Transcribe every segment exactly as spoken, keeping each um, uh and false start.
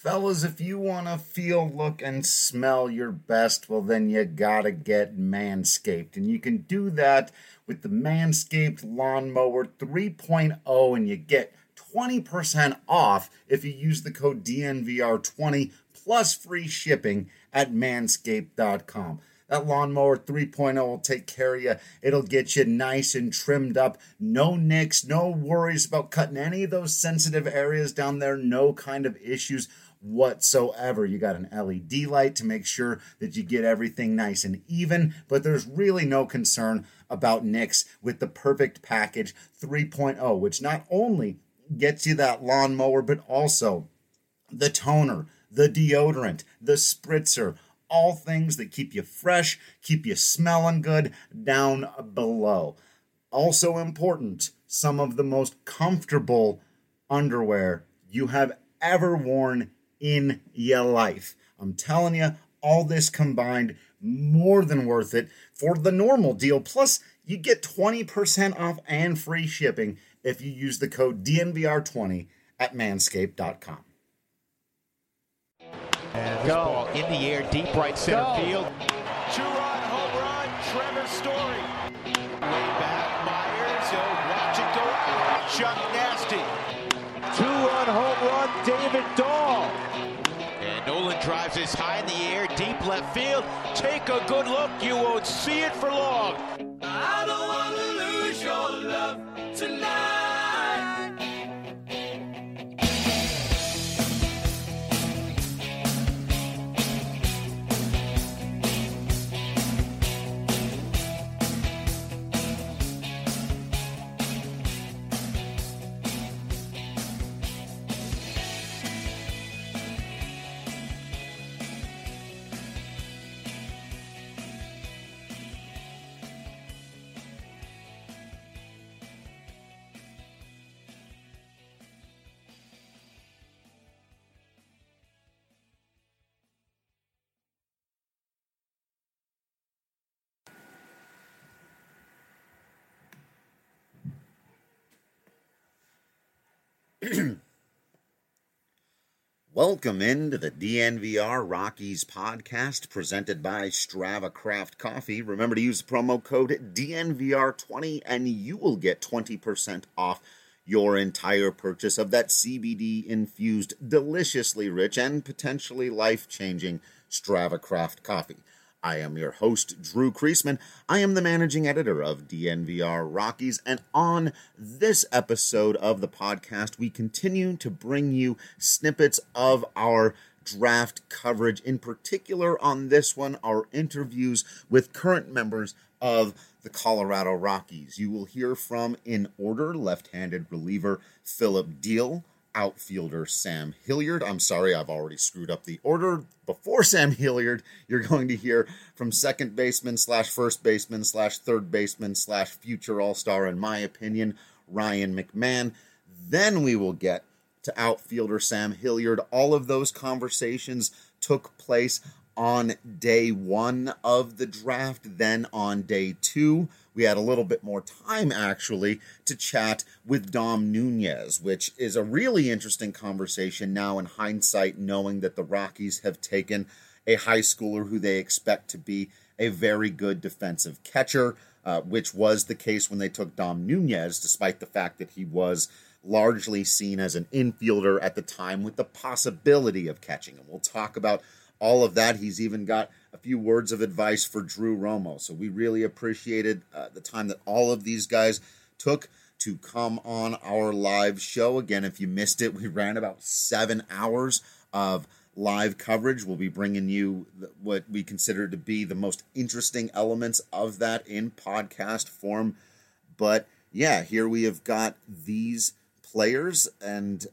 Fellas, if you want to feel, look, and smell your best, well, then you gotta get Manscaped. And you can do that with the Manscaped Lawnmower three point oh, and you get twenty percent off if you use the code D N V R twenty plus free shipping at manscaped dot com. That Lawnmower three point oh will take care of you. It'll get you nice and trimmed up. No nicks, no worries about cutting any of those sensitive areas down there. No kind of issues whatsoever. You got an L E D light to make sure that you get everything nice and even, but there's really no concern about nicks with the Perfect Package three point oh, which not only gets you that lawnmower, but also the toner, the deodorant, the spritzer, all things that keep you fresh, keep you smelling good down below. Also important, some of the most comfortable underwear you have ever worn in your life. I'm telling you, all this combined, more than worth it for the normal deal. Plus, you get twenty percent off and free shipping if you use the code D N V R twenty at manscaped dot com. And this Go. ball in the air, deep right center Go. field. Two-run home run, Trevor Story. Way back, Myers, oh, watch it go out. Chuck Nasty. Two-run home run, David Dahl. And Nolan drives this high in the air, deep left field. Take a good look, you won't see it for long. I don't want to lose your love tonight. Welcome into the D N V R Rockies podcast presented by Strava Craft Coffee. Remember to use the promo code D N V R twenty and you will get twenty percent off your entire purchase of that C B D-infused, deliciously rich, and potentially life-changing Strava Craft Coffee. I am your host, Drew Kreisman. I am the managing editor of D N V R Rockies, and on this episode of the podcast, we continue to bring you snippets of our draft coverage. In particular, on this one, our interviews with current members of the Colorado Rockies. You will hear from, in order, left-handed reliever Phillip Diehl, outfielder Sam Hilliard. I'm sorry, I've already screwed up the order. Before Sam Hilliard, you're going to hear from second baseman slash first baseman slash third baseman slash future all-star, in my opinion, Ryan McMahon. Then we will get to outfielder Sam Hilliard. All of those conversations took place on day one of the draft. Then on day two, we had a little bit more time, actually, to chat with Dom Nunez, which is a really interesting conversation now in hindsight, knowing that the Rockies have taken a high schooler who they expect to be a very good defensive catcher, uh, which was the case when they took Dom Nunez, despite the fact that he was largely seen as an infielder at the time with the possibility of catching him. We'll talk about all of that. He's even got a few words of advice for Drew Romo. So we really appreciated uh, the time that all of these guys took to come on our live show. Again, if you missed it, we ran about seven hours of live coverage. We'll be bringing you what we consider to be the most interesting elements of that in podcast form. But yeah, here we have got these players, and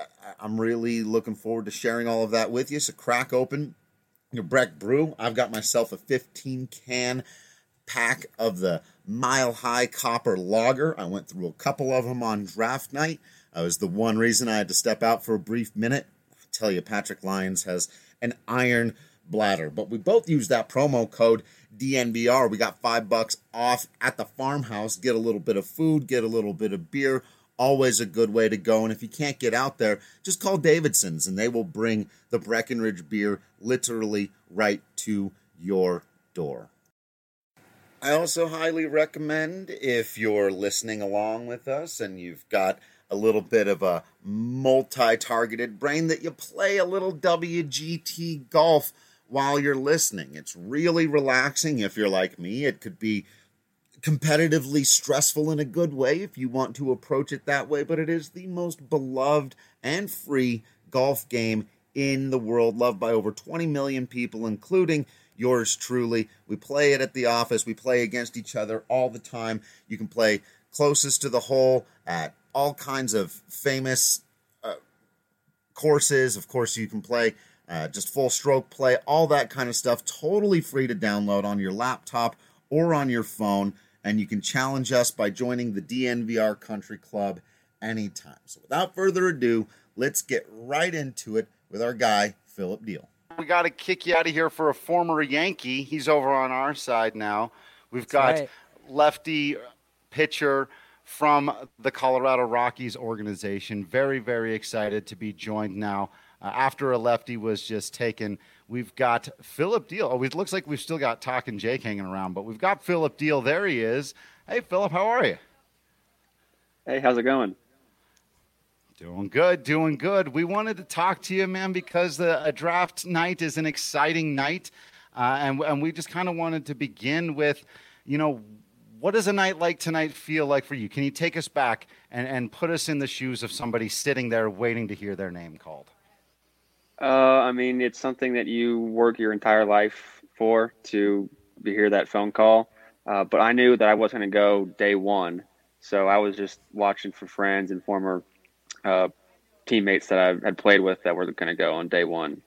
I'm really looking forward to sharing all of that with you. So crack open your Breck Brew. I've got myself a fifteen can pack of the Mile High Copper Lager. I went through a couple of them on draft night. That was the one reason I had to step out for a brief minute. I tell you, Patrick Lyons has an iron bladder. But we both use that promo code D N V R. We got five bucks off at the farmhouse. Get a little bit of food, get a little bit of beer, always a good way to go. And if you can't get out there, just call Davidson's and they will bring the Breckenridge beer literally right to your door. I also highly recommend, if you're listening along with us and you've got a little bit of a multi-targeted brain, that you play a little W G T golf while you're listening. It's really relaxing. If you're like me, it could be competitively stressful in a good way if you want to approach it that way, but it is the most beloved and free golf game in the world, loved by over twenty million people, including yours truly. We play it at the office. We play against each other all the time. You can play closest to the hole at all kinds of famous uh, courses. Of course, you can play uh, just full stroke play, all that kind of stuff, totally free to download on your laptop or on your phone. And you can challenge us by joining the D N V R Country Club anytime. So without further ado, let's get right into it with our guy, Philip Deal. We got to kick you out of here for a former Yankee. He's over on our side now. We've That's got right. lefty pitcher from the Colorado Rockies organization. Very, very excited to be joined now. Uh, after a lefty was just taken, we've got Philip Deal. Oh, it looks like we've still got Talkin' Jake hanging around, but we've got Philip Deal. There he is. Hey, Philip, how are you? Hey, how's it going? Doing good, doing good. We wanted to talk to you, man, because the a draft night is an exciting night, uh, and and we just kind of wanted to begin with, you know, what does a night like tonight feel like for you? Can you take us back and, and put us in the shoes of somebody sitting there waiting to hear their name called? Uh, I mean, it's something that you work your entire life for, to hear that phone call. Uh, but I knew that I wasn't going to go day one, so I was just watching for friends and former uh, teammates that I had played with that were going to go on day one.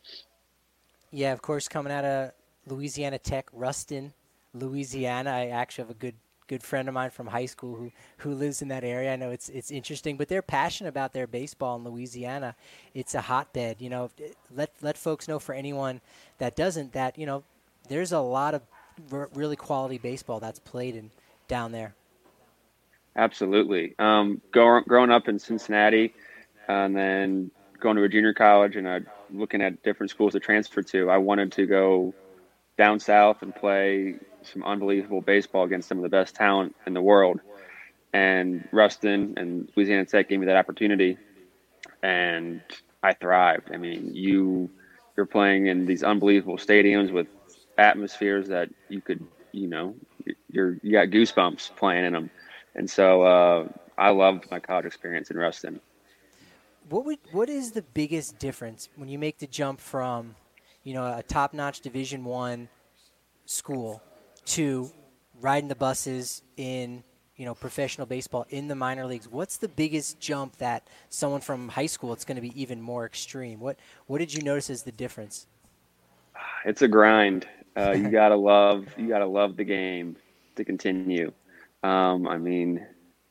Yeah, of course, coming out of Louisiana Tech, Ruston, Louisiana. I actually have a good good friend of mine from high school who, who lives in that area. I know it's it's interesting, but they're passionate about their baseball in Louisiana. It's a hotbed. You know, let let folks know, for anyone that doesn't, that, you know, there's a lot of r- really quality baseball that's played in down there. Absolutely. Um, go, growing up in Cincinnati, and then going to a junior college and uh, looking at different schools to transfer to, I wanted to go down south and play some unbelievable baseball against some of the best talent in the world. And Ruston and Louisiana Tech gave me that opportunity, and I thrived. I mean, you, you're playing in these unbelievable stadiums with atmospheres that you could, you know, you're, you got goosebumps playing in them. And so uh, I loved my college experience in Ruston. What would what is the biggest difference when you make the jump from, you know, a top-notch Division One school to riding the buses in, you know, professional baseball in the minor leagues? What's the biggest jump that someone from high school, it's going to be even more extreme? What what did you notice as the difference? It's a grind. Uh, you gotta love you gotta love the game to continue. Um, I mean,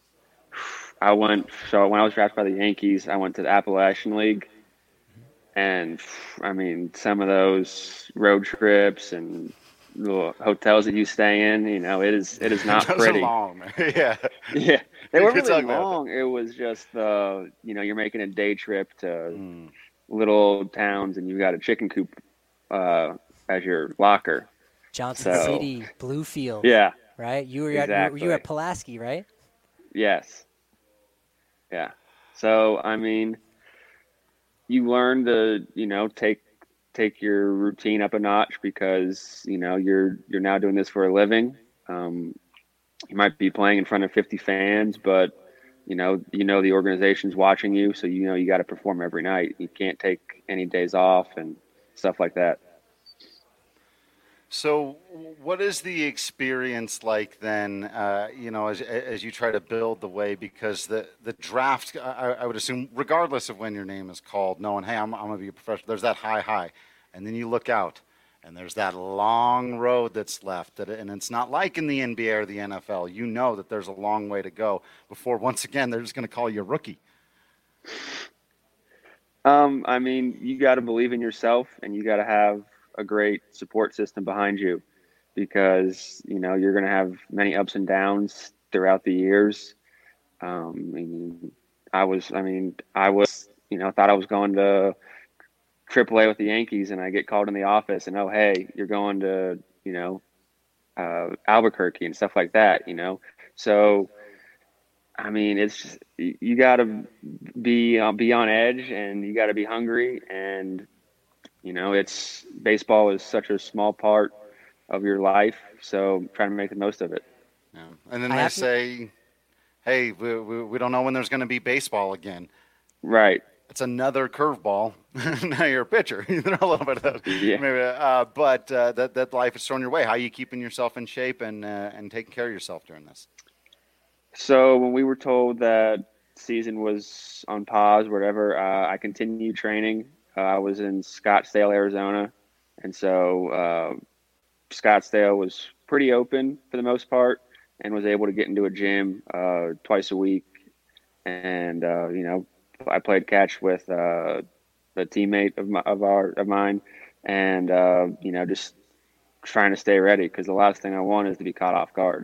I went, so when I was drafted by the Yankees, I went to the Appalachian League. And, I mean, some of those road trips and little hotels that you stay in, you know, it is it is not Those pretty. are long. yeah. Yeah, they were It's really ugly. long. It was just, uh, you know, you're making a day trip to Mm. little towns, and you've got a chicken coop uh, as your locker. Johnson So- City, Bluefield, Yeah, right? You were at you were- you were at Exactly. Pulaski, right? yes. Yeah. So, I mean, you learn to, you know, take take your routine up a notch because, you know, you're you're now doing this for a living. Um, you might be playing in front of fifty fans, but you know, you know the organization's watching you, so you know you got to perform every night. You can't take any days off and stuff like that. So what is the experience like then, uh, you know, as as you try to build the way? Because the, the draft, I, I would assume, regardless of when your name is called, knowing, hey, I'm, I'm going to be a professional, there's that high, high. And then you look out, and there's that long road that's left. That, and it's not like in the N B A or the N F L. You know that there's a long way to go before, once again, they're just going to call you a rookie. Um, I mean, you got to believe in yourself, and you got to have a great support system behind you, because you know you're going to have many ups and downs throughout the years. Um, I mean, I was, I mean, I was, you know, thought I was going to triple A with the Yankees, and I get called in the office and, oh, hey, you're going to, you know, uh, Albuquerque and stuff like that, you know? So, I mean, it's just, you got to be, uh, be on edge, and you got to be hungry. And, you know, it's, baseball is such a small part of your life. So trying to make the most of it. Yeah. And then I they have to- say, hey, we, we, we don't know when there's going to be baseball again. Right. It's another curveball. Now you're a pitcher. You know, a little bit of those. Yeah. Maybe, uh, but uh, that that life is thrown your way. How are you keeping yourself in shape and uh, and taking care of yourself during this? So when we were told that season was on pause, whatever, uh, I continued training. Uh, I was in Scottsdale, Arizona, and so uh, Scottsdale was pretty open for the most part, and was able to get into a gym uh, twice a week. And uh, you know, I played catch with uh, a teammate of my, of our of mine, and uh, you know, just trying to stay ready, because the last thing I want is to be caught off guard.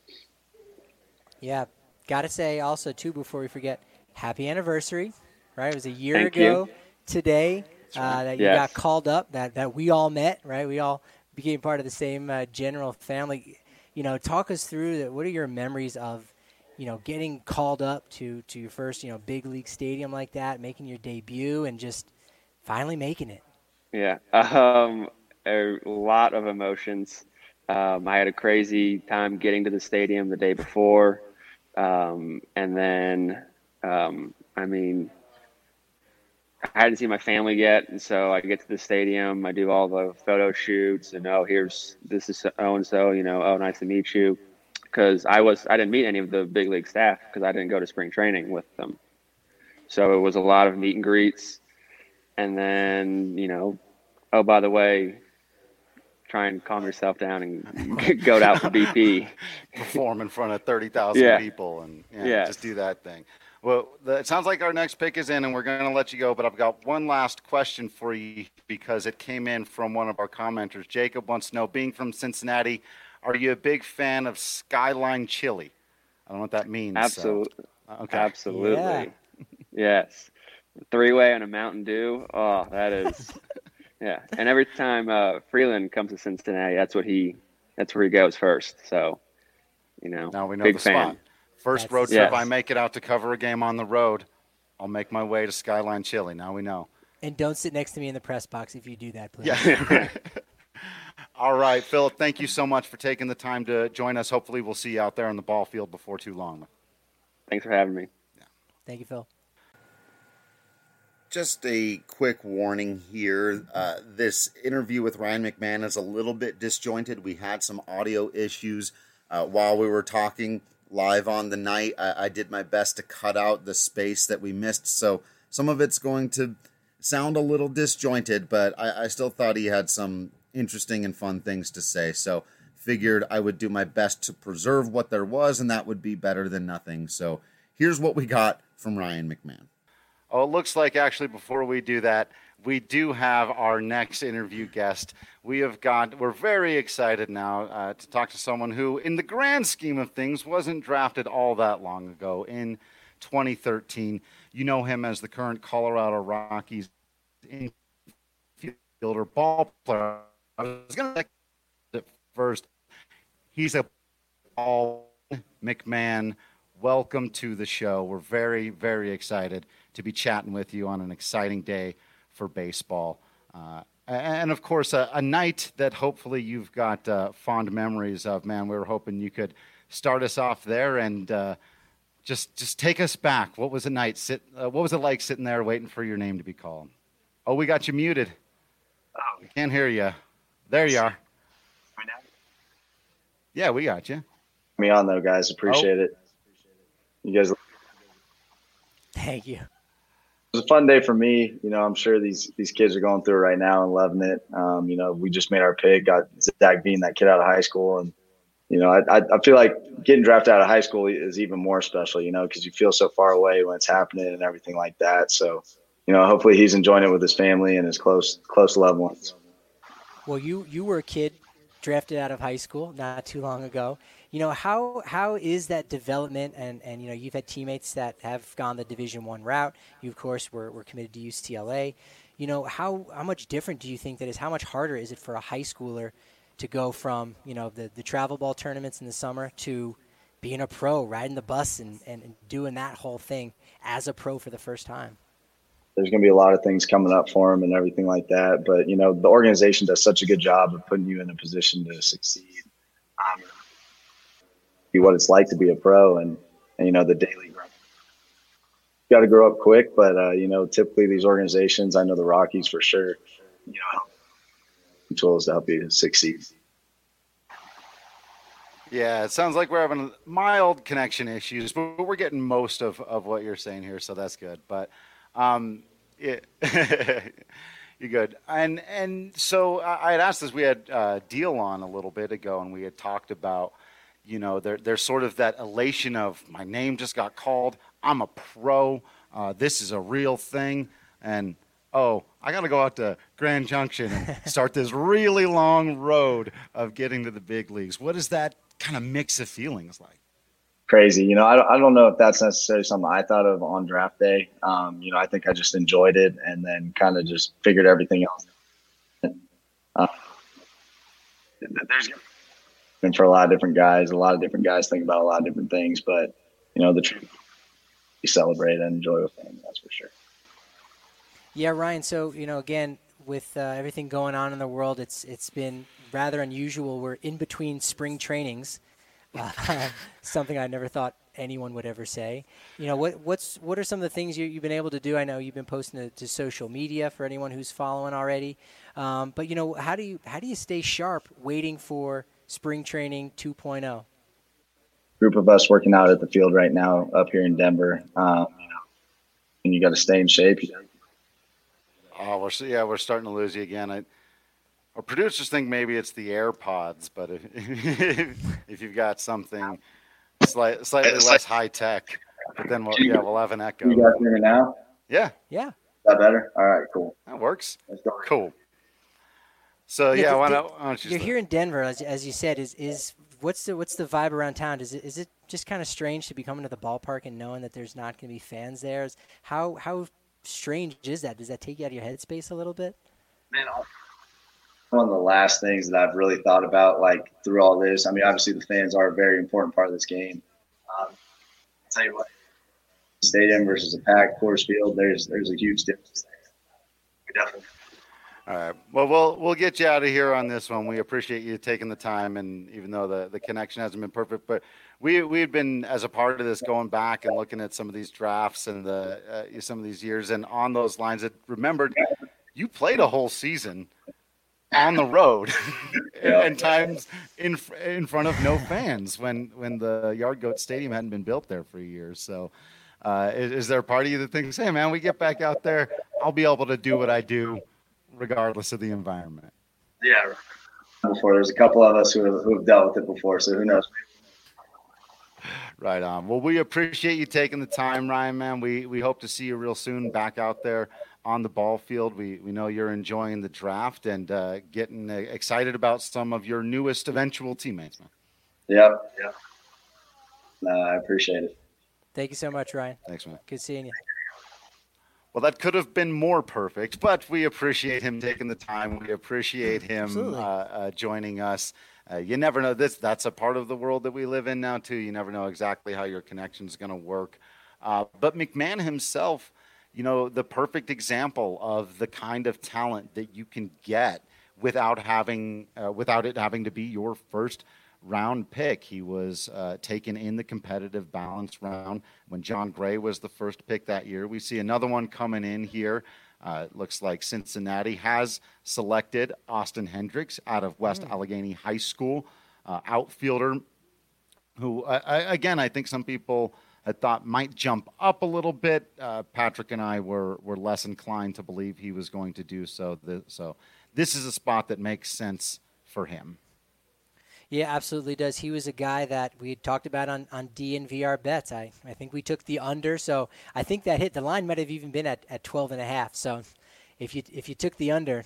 Yeah, got to say also, too, before we forget, happy anniversary, right? It was a year Thank ago you. today uh, that you Yes. got called up, that, that we all met, right? We all became part of the same uh, general family. You know, talk us through that. What are your memories of, you know, getting called up to, to your first, you know, big league stadium like that, making your debut, and just finally making it? Yeah, um, a lot of emotions. Um, I had a crazy time getting to the stadium the day before. Um, and then, um, I mean, I hadn't seen my family yet. And so I get to the stadium, I do all the photo shoots, and, oh, here's, this is so-and-so, you know, oh, nice to meet you. Cause I was, I didn't meet any of the big league staff, cause I didn't go to spring training with them. So it was a lot of meet and greets. And then, you know, oh, by the way, try and calm yourself down and go out for B P. Perform in front of thirty thousand Yeah. people and yeah, Yes. just do that thing. Well, the, it sounds like our next pick is in, and we're going to let you go. But I've got one last question for you, because it came in from one of our commenters. Jacob wants to know, being from Cincinnati, are you a big fan of Skyline Chili? I don't know what that means. Absolutely. So. Okay. Absolutely. Yeah. Yes. Three-way and a Mountain Dew. Oh, that is, yeah. And every time uh, Freeland comes to Cincinnati, that's what he, that's where he goes first. So, you know, Now we know big the fan. spot. First That's- road trip Yes. I make it out to cover a game on the road, I'll make my way to Skyline Chili. Now we know. And don't sit next to me in the press box if you do that, please. Yeah. All right, Philip, thank you so much for taking the time to join us. Hopefully we'll see you out there on the ball field before too long. Thanks for having me. Thank you, Phil. Just a quick warning here. Uh, this interview with Ryan McMahon is a little bit disjointed. We had some audio issues uh, while we were talking live on the night. I, I did my best to cut out the space that we missed, so some of it's going to sound a little disjointed, but I, I still thought he had some interesting and fun things to say, so figured I would do my best to preserve what there was, and that would be better than nothing. So here's what we got from Ryan McMahon. Oh, it looks like actually before we do that, we do have our next interview guest. We have got, we're very excited now uh, to talk to someone who, in the grand scheme of things, wasn't drafted all that long ago in twenty thirteen. You know him as the current Colorado Rockies infielder, ball player. I was going to say it first. He's a Paul McMahon. Welcome to the show. We're very, very excited to be chatting with you on an exciting day for baseball. Uh, and, of course, a, a night that hopefully you've got uh, fond memories of. Man, we were hoping you could start us off there and uh, just just take us back. What was the night? Sit, uh, what was it like sitting there waiting for your name to be called? Oh, we got you muted. Oh, we can't hear you. There you are. Yeah, we got you. Me on though, guys. Appreciate Oh. it. You guys. It Thank you. was a fun day for me. You know, I'm sure these these kids are going through it right now and loving it. Um, you know, we just made our pick, got Zach Bean, that kid out of high school, and you know, I I, I feel like getting drafted out of high school is even more special. You know, because you feel so far away when it's happening and everything like that. So, you know, hopefully he's enjoying it with his family and his close close loved ones. Well, you, you were a kid drafted out of high school not too long ago. You know, how how is that development? And, and you know, you've had teammates that have gone the Division One route. You, of course, were, were committed to U C L A. You know, how, how much different do you think that is? How much harder is it for a high schooler to go from, you know, the, the travel ball tournaments in the summer to being a pro, riding the bus and, and, and doing that whole thing as a pro for the first time? There's going to be a lot of things coming up for him and everything like that. But, you know, the organization does such a good job of putting you in a position to succeed. Um, be what it's like to be a pro and, and you know, the daily grind. You got to grow up quick, but, uh, you know, typically these organizations, I know the Rockies for sure, you know, tools to help you succeed. Yeah, it sounds like we're having mild connection issues, but we're getting most of, of what you're saying here, so that's good. But um, it, you're good. And and so I had asked this. We had uh, Deal on a little bit ago, and we had talked about, you know, there, there's sort of that elation of my name just got called. I'm a pro. Uh, this is a real thing. And, oh, I got to go out to Grand Junction and start this really long road of getting to the big leagues. What is that kind of mix of feelings like? Crazy. You know, I don't, I don't know if that's necessarily something I thought of on draft day. Um, you know, I think I just enjoyed it and then kind of just figured everything else. Uh, there's been for a lot of different guys. A lot of different guys think about a lot of different things, but, you know, the truth, you celebrate and enjoy with them, that's for sure. Yeah, Ryan. So, you know, again, with uh, everything going on in the world, it's it's been rather unusual. We're in between spring trainings, uh, something I never thought anyone would ever say. You know, what what's what are some of the things you, you've been able to do? I know you've been posting to, to social media for anyone who's following already. Um, but you know, how do you how do you stay sharp waiting for spring training two point oh? Group of us working out at the field right now up here in Denver. Um, you know, and you got to stay in shape. Oh, we're yeah, we're starting to lose you again. I, our producers think maybe it's the AirPods, but if, if you've got something slight, slightly less high tech, but then we'll yeah we'll have an echo. You guys hear me now? Yeah. Yeah. Is that better? All right, cool. That works. Let's go. Cool. So yeah, yeah why the, not? Why don't you you're start? here in Denver, as, as you said. Is is what's the what's the vibe around town? Is it is it just kind of strange to be coming to the ballpark and knowing that there's not going to be fans there? Is, how how strange is that? Does that take you out of your headspace a little bit? Man, one of the last things that I've really thought about, like through all this. I mean, obviously the fans are a very important part of this game. Um, I'll tell you what, stadium versus a packed Coors Field, there's there's a huge difference there. We definitely. All right. Well, we'll we'll get you out of here on this one. We appreciate you taking the time, and even though the, the connection hasn't been perfect, but we we've been as a part of this going back and looking at some of these drafts and the uh, some of these years, and on those lines, that remembered you played a whole season on the road, and, and times in in front of no fans when when the Yard Goat Stadium hadn't been built there for years. So, uh, is, is there a part of you that thinks, hey man, we get back out there, I'll be able to do what I do, regardless of the environment? Yeah. Before there's a couple of us who have, who have dealt with it before, so who knows? Right on. Well, we appreciate you taking the time, Ryan, man. We we hope to see you real soon back out there on the ball field. We we know you're enjoying the draft and uh, getting uh, excited about some of your newest eventual teammates, man. Yep. Yep. No, I appreciate it. Thank you so much, Ryan. Thanks, man. Good seeing you. Well, that could have been more perfect, but we appreciate him taking the time. We appreciate him uh, uh, joining us. Uh, you never know. This That's a part of the world that we live in now, too. You never know exactly how your connection is going to work. Uh, but McMahon himself, you know, the perfect example of the kind of talent that you can get without having, uh, without it having to be your first round pick. He was uh, taken in the competitive balance round when John Gray was the first pick that year. We see another one coming in here. Uh, it looks like Cincinnati has selected Austin Hendricks out of West mm. Allegheny High School, uh, outfielder who, uh, I, again, I think some people had thought might jump up a little bit. Uh, Patrick and I were were less inclined to believe he was going to do so. The, so this is a spot that makes sense for him. Yeah, absolutely does. He was a guy that we had talked about on, on D N V R bets. I, I think we took the under, so I think that hit. The line might have even been at, at twelve and a half. So if you if you took the under,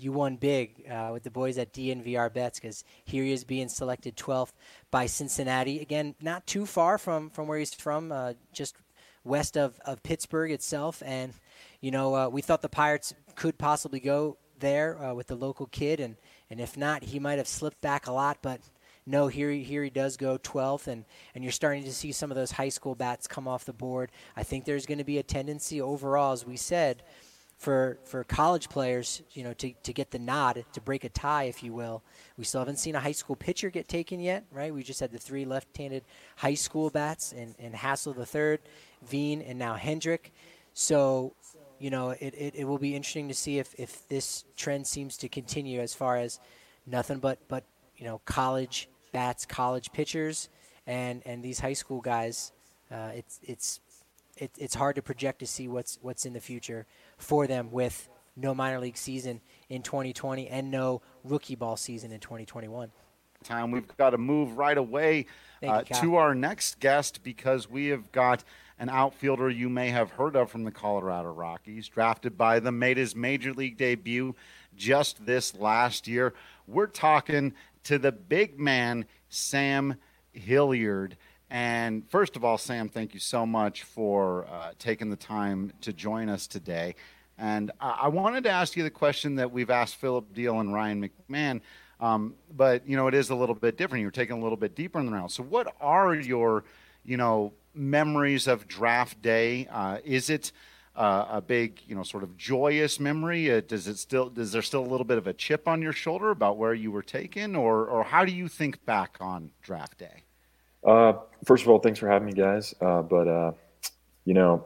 you won big uh, with the boys at D N V R Bets, because here he is being selected twelfth by Cincinnati. Again, not too far from, from where he's from, uh, just west of, of Pittsburgh itself. And, you know, uh, we thought the Pirates could possibly go there uh, with the local kid, and, and if not, he might have slipped back a lot, but no, here he, here he does go twelfth, and, and you're starting to see some of those high school bats come off the board. I think there's going to be a tendency overall, as we said, for for college players, you know, to, to get the nod, to break a tie, if you will. We still haven't seen a high school pitcher get taken yet, right? We just had the three left-handed high school bats, and, and Hassel the third, Veen, and now Hendrick. So, you know, it, it, it will be interesting to see if, if this trend seems to continue as far as nothing but, but you know, college bats, college pitchers, and, and these high school guys. Uh, it's it's it, it's hard to project to see what's what's in the future for them with no minor league season in twenty twenty and no rookie ball season in twenty twenty-one. Time we've got to move right away uh, you, to our next guest, because we have got an outfielder you may have heard of from the Colorado Rockies, drafted by them, made his major league debut just this last year. We're talking to the big man, Sam Hilliard. And first of all, Sam, thank you so much for uh, taking the time to join us today. And I-, I wanted to ask you the question that we've asked Philip Deal and Ryan McMahon, um, but, you know, it is a little bit different. You're taking a little bit deeper in the round. So what are your, you know, memories of draft day? Uh, is it uh, a big, you know, sort of joyous memory? Uh, does it still, does there still a little bit of a chip on your shoulder about where you were taken, or, or how do you think back on draft day? Uh, first of all, thanks for having me, guys. Uh, but, uh, you know,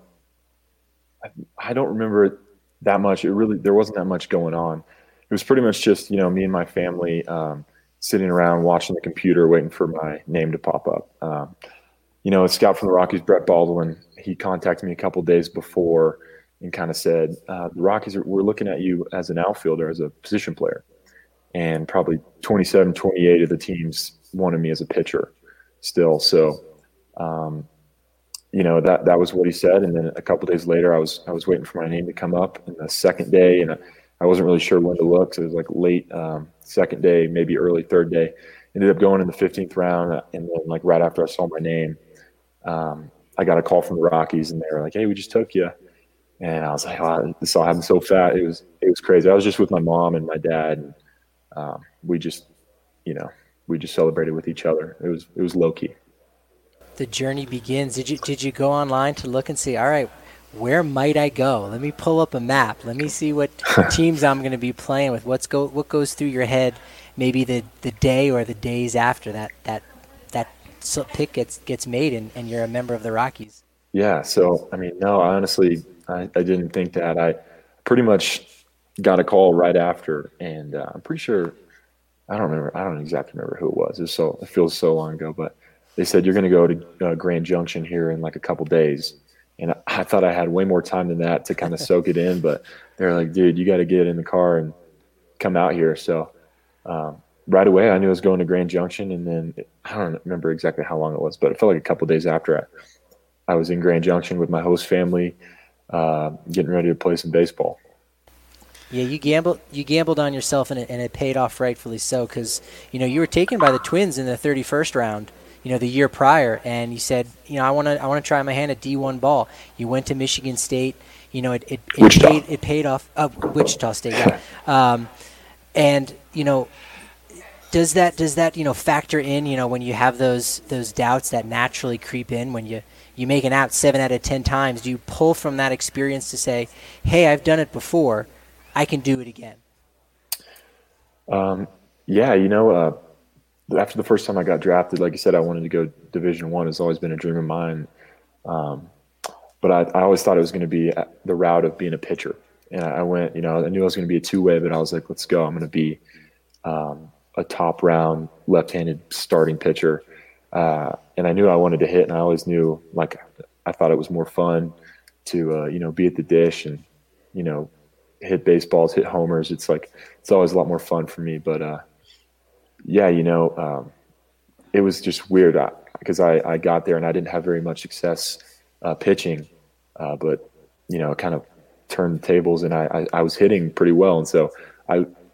I, I don't remember it that much. It really, there wasn't that much going on. It was pretty much just, you know, me and my family, um, sitting around watching the computer, waiting for my name to pop up. Um, you know, a scout from the Rockies, Brett Baldwin, he contacted me a couple days before and kind of said, uh, the Rockies, are, we're looking at you as an outfielder, as a position player. And probably twenty-seven, twenty-eight of the teams wanted me as a pitcher still. So, um, you know, that, that was what he said. And then a couple days later, I was, I was waiting for my name to come up in the second day, and I wasn't really sure when to look. So it was like late, um, second day, maybe early third day. Ended up going in the fifteenth round. And then like right after I saw my name, um, I got a call from the Rockies, and they were like, "Hey, we just took you." And I was like, "Oh, this all happened so fast." It was, it was crazy. I was just with my mom and my dad, and um, we just, you know, we just celebrated with each other. It was, it was low key. The journey begins. Did you, did you go online to look and see, all right, where might I go? Let me pull up a map. Let me see what teams I'm going to be playing with. What's go, what goes through your head maybe the, the day or the days after that, that, that pick gets, gets made and, and you're a member of the Rockies? Yeah. So, I mean, no, honestly, I, I didn't think that. I pretty much got a call right after, and uh, I'm pretty sure, I don't remember, I don't exactly remember who it was. It was so, it feels so long ago, but they said, you're going to go to uh, Grand Junction here in like a couple days. And I, I thought I had way more time than that to kind of soak it in, but they're like, dude, you got to get in the car and come out here. So um, right away, I knew I was going to Grand Junction, and then it, I don't remember exactly how long it was, but it felt like a couple days after I, I was in Grand Junction with my host family, uh, getting ready to play some baseball. Yeah, you gambled. You gambled on yourself, and it, and it paid off rightfully so. Because you know you were taken by the Twins in the thirty-first round, you know, the year prior, and you said, you know, I want to, I want to try my hand at D one ball. You went to Michigan State. You know, it, it, it paid, it paid off. Uh, Wichita State, yeah. Um, and you know, does that, does that, you know, factor in, you know, when you have those, those doubts that naturally creep in when you, you make an out seven out of ten times? Do you pull from that experience to say, hey, I've done it before, I can do it again? Um, yeah, you know, uh, after the first time I got drafted, like you said, I wanted to go Division One. It's always been a dream of mine. Um, but I, I always thought it was going to be the route of being a pitcher. And I went, you know, I knew I was going to be a two-way, but I was like, let's go. I'm going to be um, a top-round left-handed starting pitcher. Uh, and I knew I wanted to hit, and I always knew, like, I thought it was more fun to, uh, you know, be at the dish and, you know, hit baseballs, hit homers. It's like, it's always a lot more fun for me. But, uh, yeah, you know, um, it was just weird because I, I, I got there and I didn't have very much success uh, pitching. Uh, but, you know, it kind of turned the tables, and I, I, I was hitting pretty well. And so I,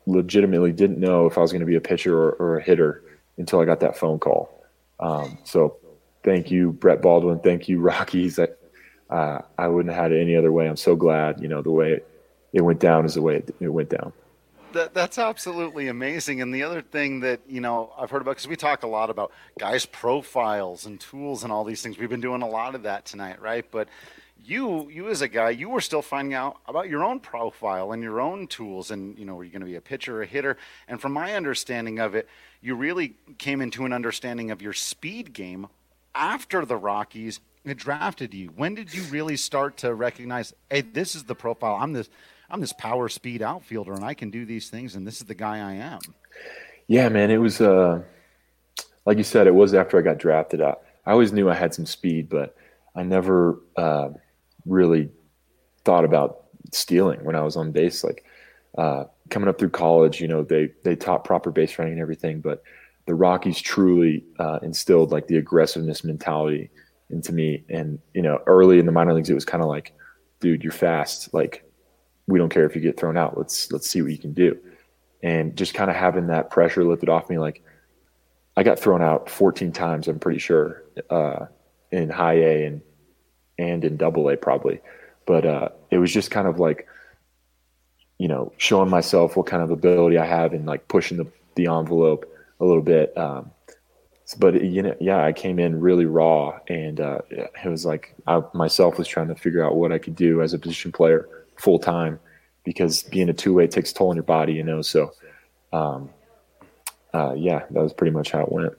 legitimately didn't know if I was going to be a pitcher or, or a hitter until I got that phone call. Um, so thank you, Brett Baldwin. Thank you, Rockies. I, uh, I wouldn't have had it any other way. I'm so glad, you know, the way it, it went down is the way it, it went down. That, that's absolutely amazing. And the other thing that, you know, I've heard about, because we talk a lot about guys' profiles and tools and all these things. We've been doing a lot of that tonight, right? But you, you as a guy, you were still finding out about your own profile and your own tools. And, you know, were you going to be a pitcher or a hitter? And from my understanding of it, you really came into an understanding of your speed game after the Rockies had drafted you. When did you really start to recognize, hey, this is the profile, I'm this – I'm this power speed outfielder and I can do these things and this is the guy I am? Yeah, man, it was, uh, like you said, it was after I got drafted. I, I always knew I had some speed, but I never uh, really thought about stealing when I was on base. Like uh, coming up through college, you know, they, they taught proper base running and everything, but the Rockies truly uh, instilled like the aggressiveness mentality into me. And, you know, early in the minor leagues, it was kind of like, dude, you're fast. Like, we don't care if you get thrown out. Let's let's see what you can do. And just kind of having that pressure lifted off me. Like I got thrown out fourteen times, I'm pretty sure, uh, in high A and and in double A probably. But uh, it was just kind of like, you know, showing myself what kind of ability I have and like pushing the, the envelope a little bit. Um, but, you know, yeah, I came in really raw and uh, it was like I myself was trying to figure out what I could do as a position player full time, because being a two way takes a toll on your body, you know? So, um, uh, yeah, that was pretty much how it went.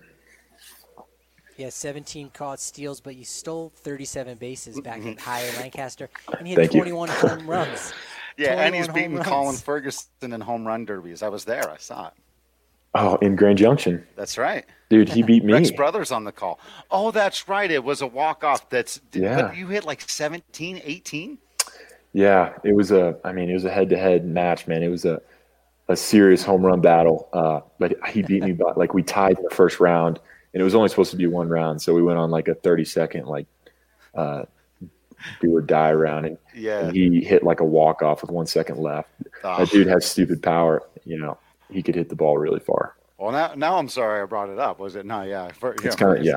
Yeah, seventeen caught steals, but you stole thirty-seven bases back at high A Lancaster, and you had Thank twenty-one you. home runs. Yeah, and he's twenty-one beaten home Colin runs. Ferguson in home run derbies. I was there. I saw it. Oh, in Grand Junction. That's right. Dude, he beat me. Rex Brothers on the call. Oh, that's right. It was a walk-off. That's Yeah. But you hit like seventeen, eighteen? Yeah, it was a, I mean, it was a head-to-head match, man. It was a, a serious home run battle. Uh, but he beat me by, like, we tied in the first round, and it was only supposed to be one round. So we went on like a thirty-second, like, uh, do or die round. And, Yeah. and he hit like a walk-off with one second left. Oh. That dude has stupid power. You know, he could hit the ball really far. Well, now, now I'm sorry I brought it up. Was it? No, yeah. For, It's yeah, kind of, yeah.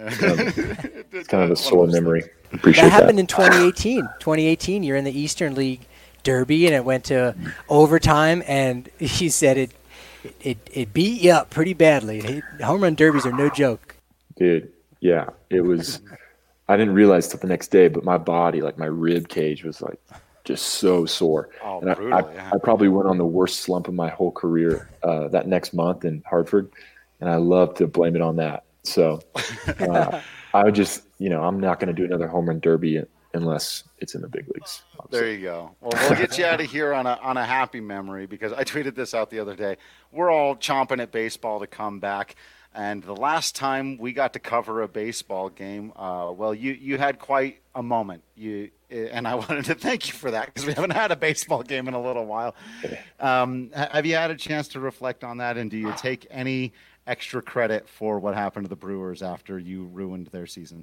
It's kind of a sore memory. Appreciate That that. happened in twenty eighteen. twenty eighteen, you're in the Eastern League Derby, and it went to overtime, and he said it it, it beat you up pretty badly. It, home run derbies are no joke. Dude, yeah, it was. I didn't realize till the next day, but my body, like my rib cage, was like just so sore. Oh, and I, brutal, I, yeah. I probably went on the worst slump of my whole career uh, that next month in Hartford, and I love to blame it on that. So uh, I would just, you know, I'm not going to do another home run derby unless it's in the big leagues. There you go. Well, we'll get you out of here on a on a happy memory, because I tweeted this out the other day. We're all chomping at baseball to come back. And the last time we got to cover a baseball game, uh, well, you, you had quite a moment. You and I wanted to thank you for that, because we haven't had a baseball game in a little while. Um, have you had a chance to reflect on that? And do you take any extra credit for what happened to the Brewers after you ruined their season?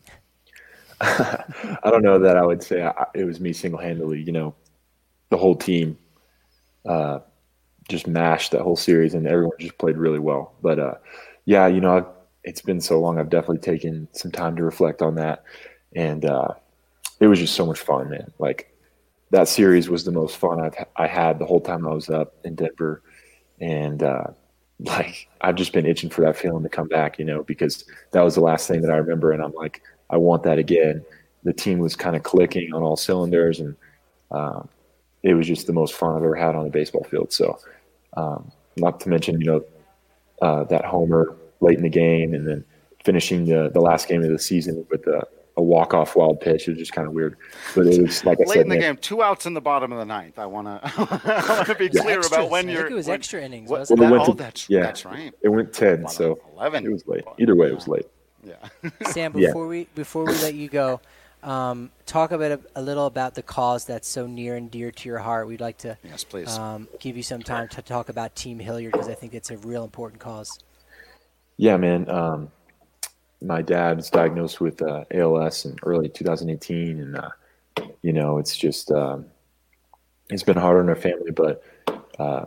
I don't know that I would say I, it was me single-handedly. You know, the whole team uh, just mashed that whole series, and everyone just played really well. But, uh, yeah, you know, I've, it's been so long. I've definitely taken some time to reflect on that. And uh, it was just so much fun, man. Like, that series was the most fun I've, I had the whole time I was up in Denver. And, uh, like, I've just been itching for that feeling to come back, you know, because that was the last thing that I remember. And I'm like, I want that again. The team was kind of clicking on all cylinders, and um, it was just the most fun I've ever had on a baseball field. So, um, not to mention, you know, uh, that homer late in the game, and then finishing the, the last game of the season with a, a walk-off wild pitch. It was just kind of weird. But it was, like I Late said, in the man, game, two outs in the bottom of the ninth. I want to I want to be clear Extras. about when I you're. think it was when, extra innings, what- wasn't Well, it that- went oh, to- that's yeah. that's right. it went ten, so eleven. it was late. Either way, it was late. Yeah. Sam, Yeah. before we before we let you go, um, talk a bit a little about the cause that's so near and dear to your heart. We'd like to Yes, please. um, give you some time to talk about Team Hilliard, because I think it's a real important cause. Yeah, man. Um, my dad was diagnosed with uh, A L S in early two thousand eighteen, and uh, you know, it's just um, it's been hard on our family, but uh,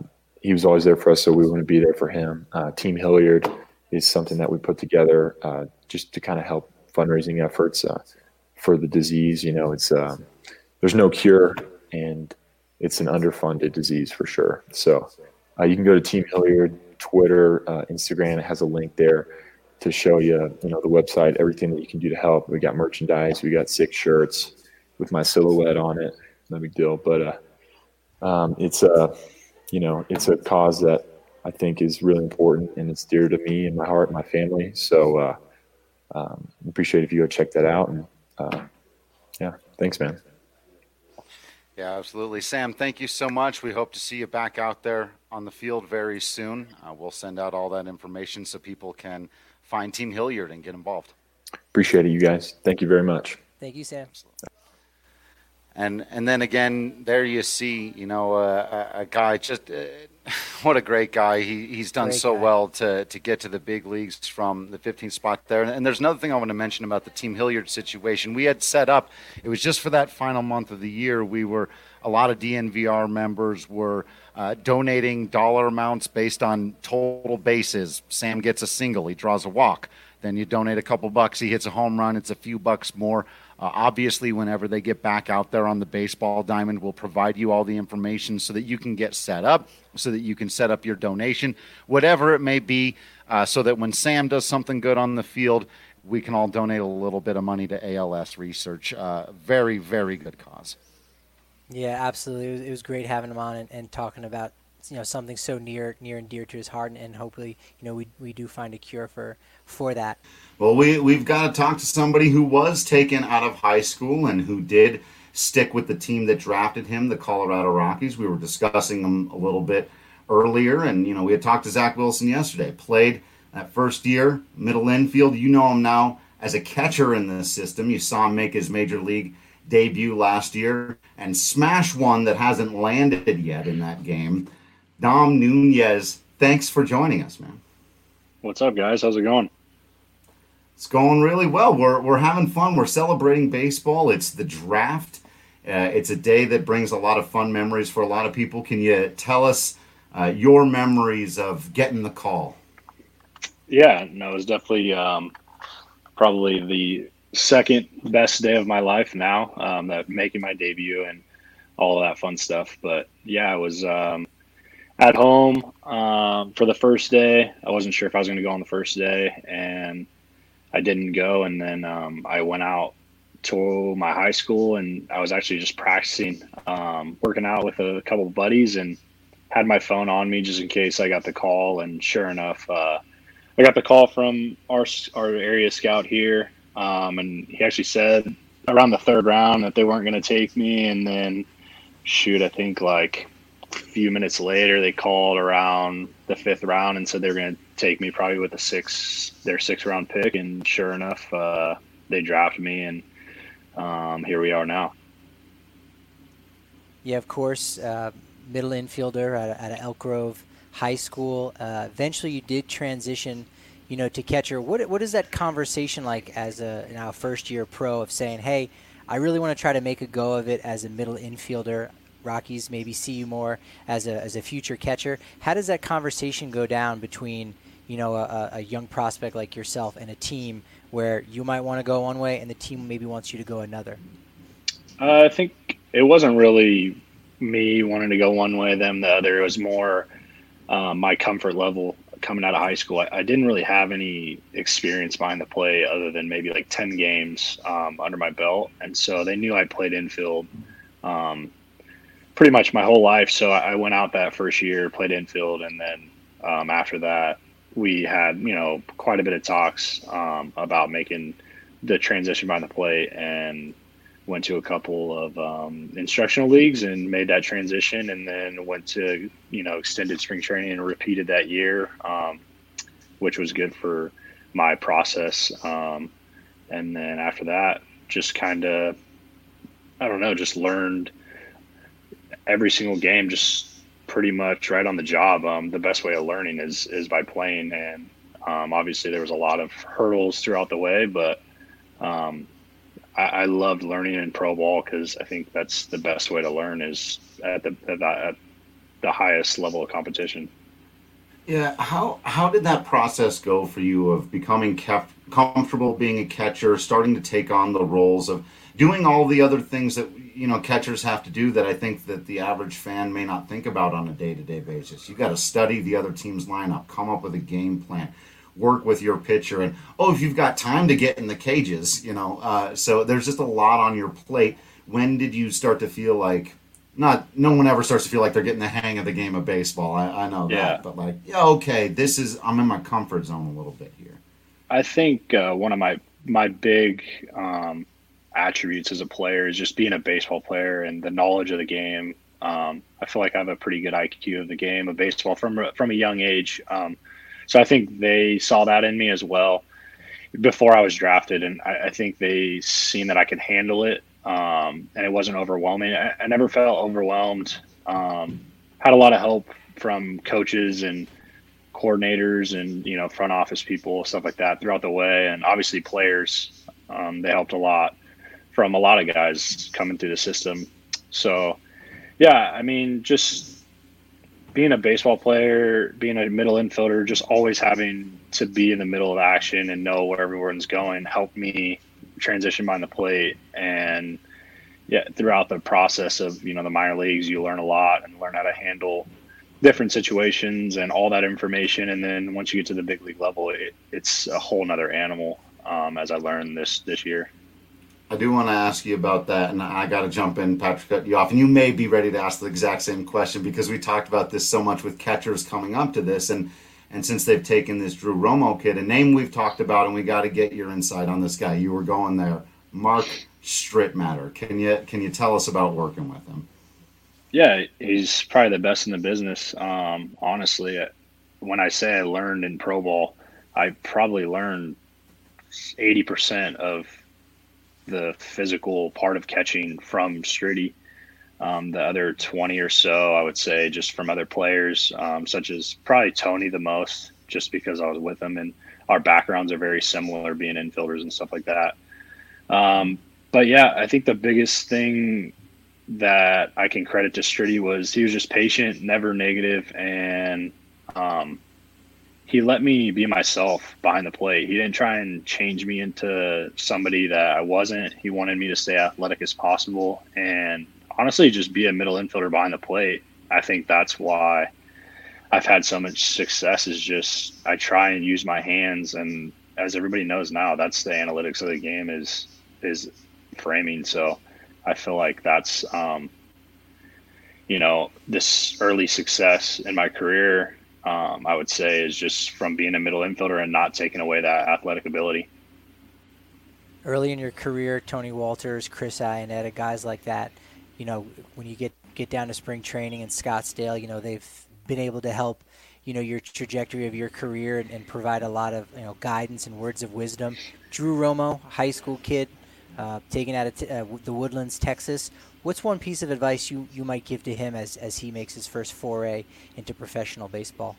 he was always there for us, so we want to be there for him. Uh, Team Hilliard is something that we put together uh, just to kind of help fundraising efforts uh, for the disease. You know, it's uh, there's no cure, and it's an underfunded disease for sure. So uh, you can go to Team Hilliard, Twitter, uh, Instagram. It has a link there to show you, you know, the website, everything that you can do to help. We got merchandise. We got six shirts with my silhouette on it. No big deal. But uh, um, it's a, you know, it's a cause that I think is really important, and it's dear to me and my heart and my family. So uh, um, appreciate if you go check that out. And uh, yeah, thanks, man. Yeah, absolutely. Sam, thank you so much. We hope to see you back out there on the field very soon. Uh, we'll send out all that information so people can find Team Hilliard and get involved. Appreciate it, you guys. Thank you very much. Thank you, Sam. And and then again, there you see, you know, uh, a, a guy just uh, what a great guy. He he's done Great so guy. well to to get to the big leagues from the fifteenth spot there. And, and there's another thing I want to mention about the Team Hilliard situation. We had set up, it was just for that final month of the year. We were a lot of D N V R members were uh, donating dollar amounts based on total bases. Sam gets a single, he draws a walk. Then you donate a couple bucks, he hits a home run, it's a few bucks more. Uh, obviously, whenever they get back out there on the baseball diamond, we'll provide you all the information so that you can get set up, so that you can set up your donation, whatever it may be, uh, so that when Sam does something good on the field, we can all donate a little bit of money to A L S research. Uh, very, very good cause. Yeah, absolutely. It was, it was great having him on and, and talking about, you know, something so near near and dear to his heart, and, and hopefully, you know, we we do find a cure for for that. Well, we, we've got to talk to somebody who was taken out of high school and who did stick with the team that drafted him, the Colorado Rockies. We were discussing them a little bit earlier, and, you know, we had talked to Zach Wilson yesterday. Played that first year, middle infield. You know him now as a catcher in this system. You saw him make his major league debut last year and smash one that hasn't landed yet in that game. Dom Nunez, thanks for joining us, man. What's up, guys? How's it going? It's going really well. We're we're having fun. We're celebrating baseball. It's the draft. Uh, it's a day that brings a lot of fun memories for a lot of people. Can you tell us uh, your memories of getting the call? Yeah, no, it was definitely um, probably the second best day of my life now, um, that making my debut and all of that fun stuff. But yeah, I was um, at home um, for the first day. I wasn't sure if I was going to go on the first day, and I didn't go. And then um, I went out to my high school, and I was actually just practicing, um, working out with a couple of buddies, and had my phone on me just in case I got the call. And sure enough, uh, I got the call from our our area scout here, um, and he actually said around the third round that they weren't going to take me. And then, shoot, I think like a few minutes later, they called around the fifth round and said they were going to take me probably with a six, their six round pick. And sure enough, uh, they drafted me, and um, here we are now. Yeah, of course, uh, middle infielder at, at Elk Grove High School. Uh, eventually, you did transition, you know, to catcher. What what is that conversation like as a now first year pro of saying, hey, I really want to try to make a go of it as a middle infielder? Rockies maybe see you more as a as a future catcher. How does that conversation go down between, you know, a, a young prospect like yourself and a team where you might want to go one way and the team maybe wants you to go another? Uh, I think it wasn't really me wanting to go one way, them the other. It was more um, my comfort level coming out of high school. I, I didn't really have any experience behind the plate other than maybe like ten games um, under my belt. And so they knew I played infield um, pretty much my whole life. So I went out that first year, played infield. And then um, after that, we had, you know, quite a bit of talks um, about making the transition behind the plate, and went to a couple of um, instructional leagues and made that transition, and then went to, you know, extended spring training and repeated that year, um, which was good for my process. Um, and then after that, just kind of, I don't know, just learned every single game, just pretty much right on the job. Um, the best way of learning is, is by playing. And um, obviously there was a lot of hurdles throughout the way, but um, I, I loved learning in pro ball, because I think that's the best way to learn is at the, at the, at the highest level of competition. Yeah, how how did that process go for you of becoming kept comfortable being a catcher, starting to take on the roles of doing all the other things that you know catchers have to do that I think that the average fan may not think about on a day-to-day basis? You got to study the other team's lineup, come up with a game plan, work with your pitcher, and oh, if you've got time to get in the cages, you know. Uh, so there's just a lot on your plate. When did you start to feel like? Not, no one ever starts to feel like they're getting the hang of the game of baseball. I, I know that, yeah. but like, yeah, okay, this is I'm in my comfort zone a little bit here. I think uh, one of my my big um, attributes as a player is just being a baseball player and the knowledge of the game. Um, I feel like I have a pretty good I Q of the game of baseball from from a young age. Um, so I think they saw that in me as well before I was drafted, and I, I think they seen that I could handle it. Um, and it wasn't overwhelming. I, I never felt overwhelmed. Um, had a lot of help from coaches and coordinators and, you know, front office people, stuff like that throughout the way. And obviously players, um, they helped a lot from a lot of guys coming through the system. So, yeah, I mean, just being a baseball player, being a middle infielder, just always having to be in the middle of action and know where everyone's going helped me transition behind the plate. And yeah, throughout the process of, you know, the minor leagues, you learn a lot and learn how to handle different situations and all that information. And then once you get to the big league level, it, it's a whole nother animal, um, as I learned this, this year. I do want to ask you about that, and I got to jump in, Patrick, cut you off. And you may be ready to ask the exact same question because we talked about this so much with catchers coming up to this. And And since they've taken this Drew Romo kid, a name we've talked about, and we got to get your insight on this guy. You were going there, Mark Strittmatter. Can you can you tell us about working with him? Yeah, he's probably the best in the business. Um, honestly, when I say I learned in pro ball, I probably learned eighty percent of the physical part of catching from Stritty. Um, the other twenty or so, I would say, just from other players, um, such as probably Tony the most, just because I was with him and our backgrounds are very similar, being infielders and stuff like that. Um, but yeah, I think the biggest thing that I can credit to Stritty was he was just patient, never negative, and um, he let me be myself behind the plate. He didn't try and change me into somebody that I wasn't. He wanted me to stay athletic as possible and honestly just be a middle infielder behind the plate. I think that's why I've had so much success, is just I try and use my hands. And as everybody knows now, that's the analytics of the game is is framing. So I feel like that's, um, you know, this early success in my career, um, I would say, is just from being a middle infielder and not taking away that athletic ability. Early in your career, Tony Walters, Chris Iannetta, guys like that, you know, when you get, get down to spring training in Scottsdale, you know, they've been able to help, you know, your trajectory of your career and, and provide a lot of, you know, guidance and words of wisdom. Drew Romo, high school kid, uh, taken out of t- uh, the Woodlands, Texas. What's one piece of advice you, you might give to him as, as he makes his first foray into professional baseball?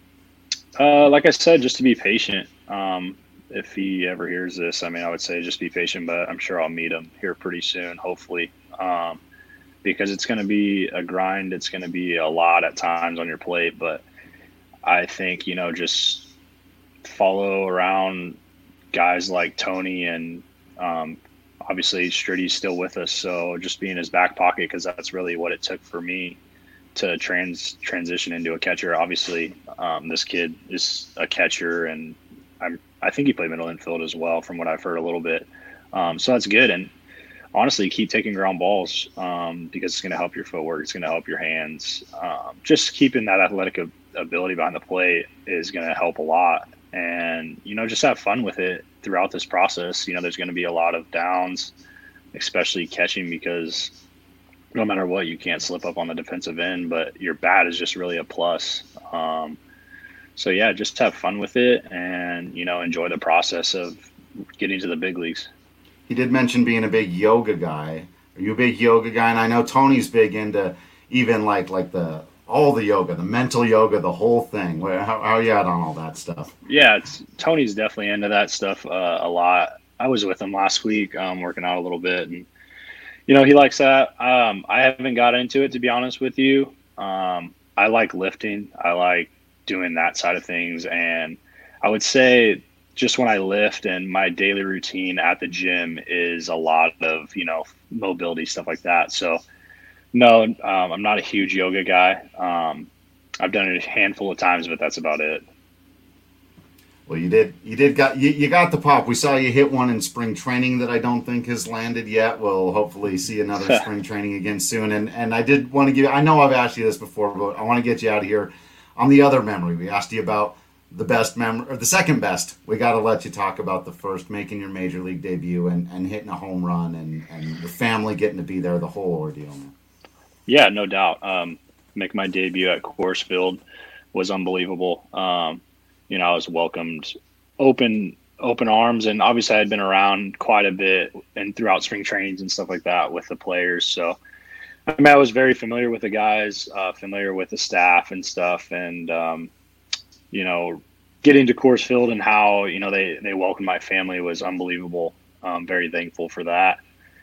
Uh, like I said, just to be patient. Um, if he ever hears this, I mean, I would say just be patient, but I'm sure I'll meet him here pretty soon, hopefully. Um, because it's going to be a grind. It's going to be a lot at times on your plate, but I think, you know, just follow around guys like Tony and, um, obviously Stritty's still with us. So just be in his back pocket, because that's really what it took for me to trans transition into a catcher. Obviously, um, this kid is a catcher, and I'm, I think he played middle infield as well, from what I've heard a little bit. Um, so that's good. And honestly, keep taking ground balls, um, because it's going to help your footwork. It's going to help your hands. Um, just keeping that athletic ab- ability behind the plate is going to help a lot. And, you know, just have fun with it throughout this process. You know, there's going to be a lot of downs, especially catching, because no matter what, you can't slip up on the defensive end, but your bat is just really a plus. Um, so, yeah, just have fun with it and, you know, enjoy the process of getting to the big leagues. He did mention being a big yoga guy. Are you a big yoga guy? And I know Tony's big into even like like the all the yoga, the mental yoga, the whole thing. Where, how, how are you at on all that stuff? Yeah, it's, Tony's definitely into that stuff uh, a lot. I was with him last week, um, working out a little bit, and you know, he likes that. Um, I haven't got into it, to be honest with you. Um, I like lifting. I like doing that side of things. And I would say just when I lift and my daily routine at the gym is a lot of, you know, mobility, stuff like that. So no, um, I'm not a huge yoga guy. Um, I've done it a handful of times, but that's about it. Well, you did. You did got you, you got the pop. We saw you hit one in spring training that I don't think has landed yet. We'll hopefully see another spring training again soon. And and I did want to give. I know I've asked you this before, but I want to get you out of here on the other memory. We asked you about the best memory or the second best. We got to let you talk about the first, making your major league debut and, and hitting a home run and and your family getting to be there, the whole ordeal, man. Yeah, no doubt. Um, make my debut at Coors Field was unbelievable. Um, You know, I was welcomed open, open arms, and obviously I had been around quite a bit and throughout spring trainings and stuff like that with the players. So, I mean, I was very familiar with the guys, uh, familiar with the staff and stuff, and um, you know, getting to Coors Field and how you know they they welcomed my family was unbelievable. I'm very thankful for that,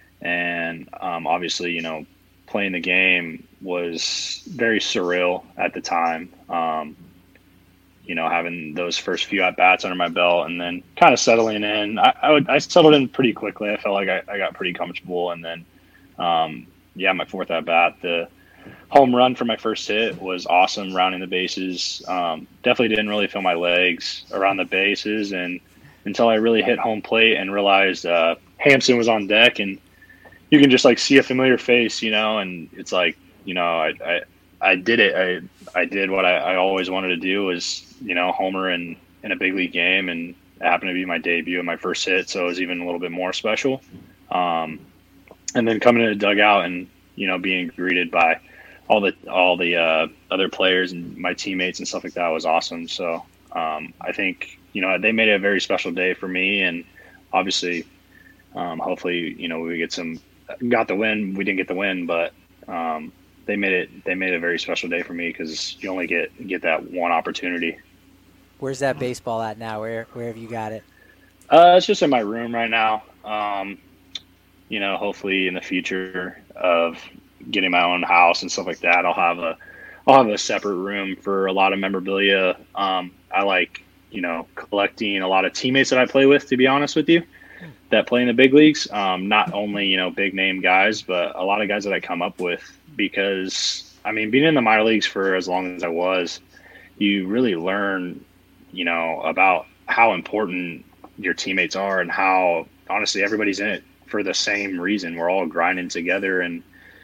and um, obviously, you know, playing the game was very surreal at the time. Um, you know, having those first few at-bats under my belt and then kind of settling in. I, I, would, I settled in pretty quickly. I felt like I, I got pretty comfortable. And then, um, yeah, my fourth at-bat, the home run for my first hit was awesome, rounding the bases. Um, definitely didn't really feel my legs around the bases and until I really hit home plate and realized uh, Hampson was on deck and you can just, like, see a familiar face, you know, and it's like, you know, I I, I did it. I I did what I, I always wanted to do was, you know, homer in, in a big league game, and it happened to be my debut and my first hit, so it was even a little bit more special. Um, and then coming to the dugout and, you know, being greeted by all the all the uh, other players and my teammates and stuff like that was awesome. So um, I think, you know, they made it a very special day for me, and obviously, um, hopefully, you know, we get some got the win. We didn't get the win, but um, they made it they made it a very special day for me because you only get get that one opportunity. Where's that baseball at now? Where where have you got it? Uh, it's just in my room right now. Um, you know, hopefully in the future of getting my own house and stuff like that, I'll have a I'll have a separate room for a lot of memorabilia. Um, I like, you know, collecting a lot of teammates that I play with, to be honest with you, that play in the big leagues. Um, not only, you know, big name guys, but a lot of guys that I come up with because, I mean, being in the minor leagues for as long as I was, you really learn, you know, about how important your teammates are and how, honestly, everybody's in it for the same reason. We're all grinding together, and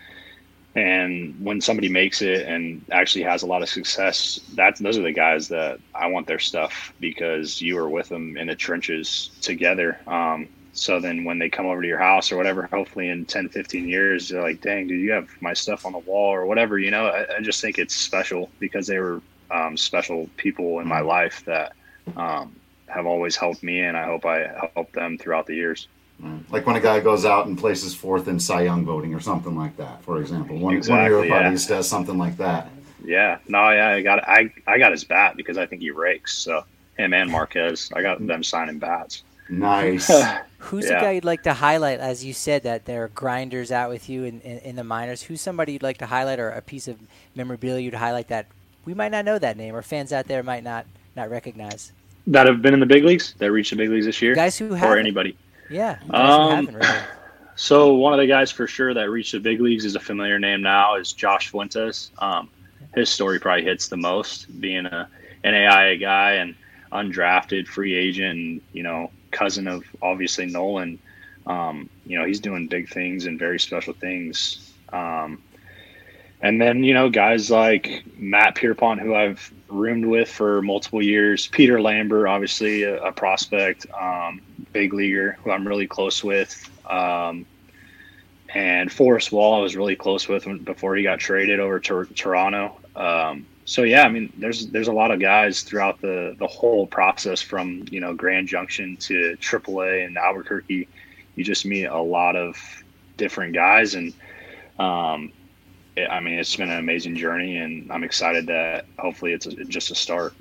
and when somebody makes it and actually has a lot of success, that's those are the guys that I want their stuff because you were with them in the trenches together. Um, so then when they come over to your house or whatever, hopefully in ten, fifteen years, they're like, dang, dude, you have my stuff on the wall or whatever, you know. I, I just think it's special because they were um, special people in my life that um, have always helped me, and I hope I helped them throughout the years. Like when a guy goes out and places fourth in Cy Young voting or something like that, for example. One, exactly, one of your yeah. buddies does something like that. Yeah, no, yeah, I got I I got his bat because I think he rakes. So him and Marquez, I got them signing bats. Nice. Who's Yeah. a guy you'd like to highlight, as you said that there are grinders out with you in, in, in the minors? Who's somebody you'd like to highlight, or a piece of memorabilia you'd highlight that we might not know that name, or fans out there might not not recognize? That have been in the big leagues, that reached the big leagues this year, Guys who or haven't. anybody. Yeah, guys who Um, haven't really. So one of the guys for sure that reached the big leagues is a familiar name now is Josh Fuentes. Um, his story probably hits the most, being a N A I A guy and undrafted free agent, and you know, cousin of obviously Nolan. Um, you know, he's doing big things and very special things. Um, and then you know, guys like Matt Pierpont, who I've roomed with for multiple years, Peter Lambert, obviously a, a prospect, um, big leaguer who I'm really close with. Um, and Forrest Wall, I was really close with when, before he got traded over to Toronto. Um, so yeah, I mean, there's there's a lot of guys throughout the the whole process from you know Grand Junction to triple A and Albuquerque. You just meet a lot of different guys, and um, it, I mean, it's been an amazing journey, and I'm excited that hopefully it's a, just a start.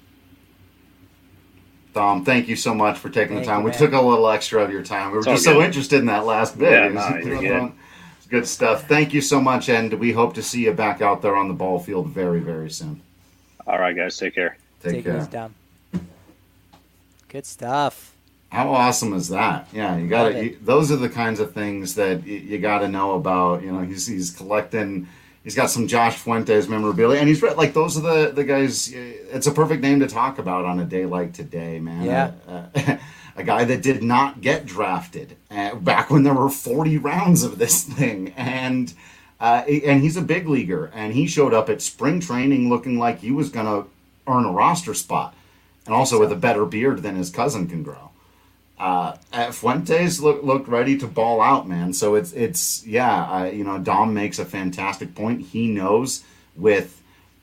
Tom, thank you so much for taking Thank the time. you, we man. took a little extra of your time. We were It's all just so good. interested in that last bit. Yeah, It was- no, you're good. Good stuff. Thank you so much, and we hope to see you back out there on the ball field very, very soon. All right, guys. Take care. Take, Take care. it down. Good stuff. How awesome is that? Yeah, you got to. Those are the kinds of things that you, you got to know about. You know, he's he's collecting. He's got some Josh Fuentes memorabilia, and he's like those are the the guys. It's a perfect name to talk about on a day like today, man. Yeah. Uh, a guy that did not get drafted uh, back when there were forty rounds of this thing, and uh, and he's a big leaguer, and he showed up at spring training looking like he was going to earn a roster spot, and also with a better beard than his cousin can grow. Uh, Fuentes look, looked ready to ball out, man. So it's, it's yeah, uh, you know, Dom makes a fantastic point. He knows with,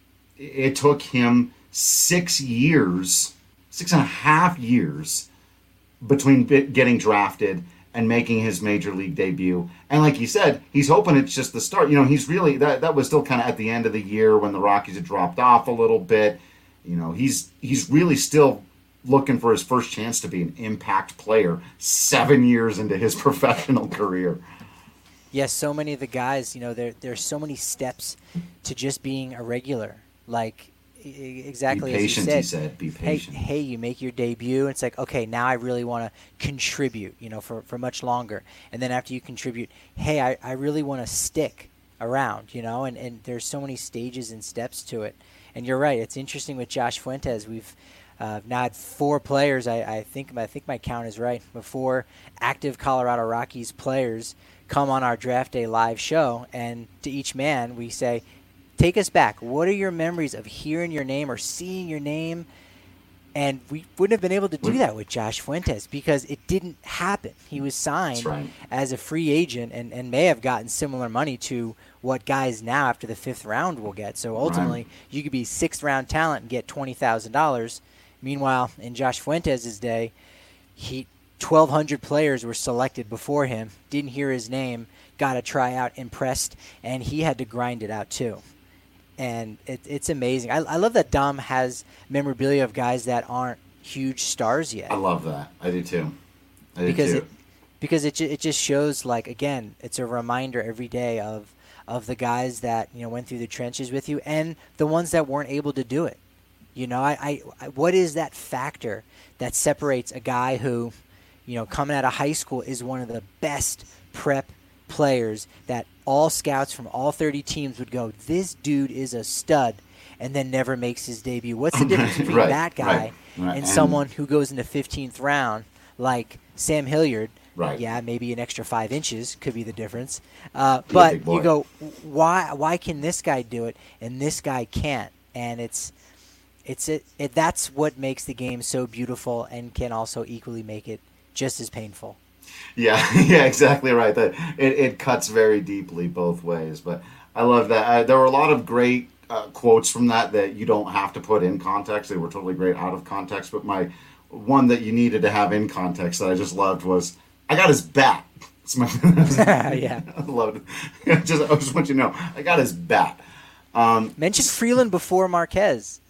it took him six years, six and a half years between getting drafted and making his major league debut. And like you said, he's hoping it's just the start. You know, he's really, that, that was still kind of at the end of the year when the Rockies had dropped off a little bit. You know, he's, he's really still looking for his first chance to be an impact player seven years into his professional career. Yes, so many of the guys, you know, there there's so many steps to just being a regular. Like e- exactly be patient, as you said. He said. Be patient. Hey, hey, you make your debut, and it's like, okay, now I really want to contribute, you know, for, for much longer. And then after you contribute, hey, I, I really want to stick around, you know, and, and there's so many stages and steps to it. And you're right. It's interesting with Josh Fuentes. We've Uh, now had four players. I, I think I think my count is right. But four active Colorado Rockies players come on our draft day live show, and to each man we say, "Take us back. What are your memories of hearing your name or seeing your name?" And we wouldn't have been able to do that with Josh Fuentes because it didn't happen. He was signed right. as a free agent and, and may have gotten similar money to what guys now after the fifth round will get. So ultimately, right. you could be sixth round talent and get twenty thousand dollars. Meanwhile, in Josh Fuentes' day, he twelve hundred players were selected before him, didn't hear his name, got a tryout, impressed, and he had to grind it out too. And it, it's amazing. I, I love that Dom has memorabilia of guys that aren't huge stars yet. I love that. I do too. I do because too. It, because it it just shows, like, again, it's a reminder every day of of the guys that, you know, went through the trenches with you and the ones that weren't able to do it. You know, I, I, what is that factor that separates a guy who, you know, coming out of high school is one of the best prep players that all scouts from all thirty teams would go, this dude is a stud, and then never makes his debut? What's the difference between right, that guy right, right. and, and someone who goes in the fifteenth round like Sam Hilliard? Right. Yeah, maybe an extra five inches could be the difference. Uh, but you go, why why can this guy do it and this guy can't? And it's it's it, it that's what makes the game so beautiful and can also equally make it just as painful. Yeah, yeah, exactly right. That it, it cuts very deeply both ways. But I love that. Uh, there were a lot of great uh, quotes from that that you don't have to put in context. They were totally great out of context. But my one that you needed to have in context that I just loved was, I got his bat. It's my yeah, I loved it. just, I just want you to know, I got his bat. Um, Mention Freeland before Marquez.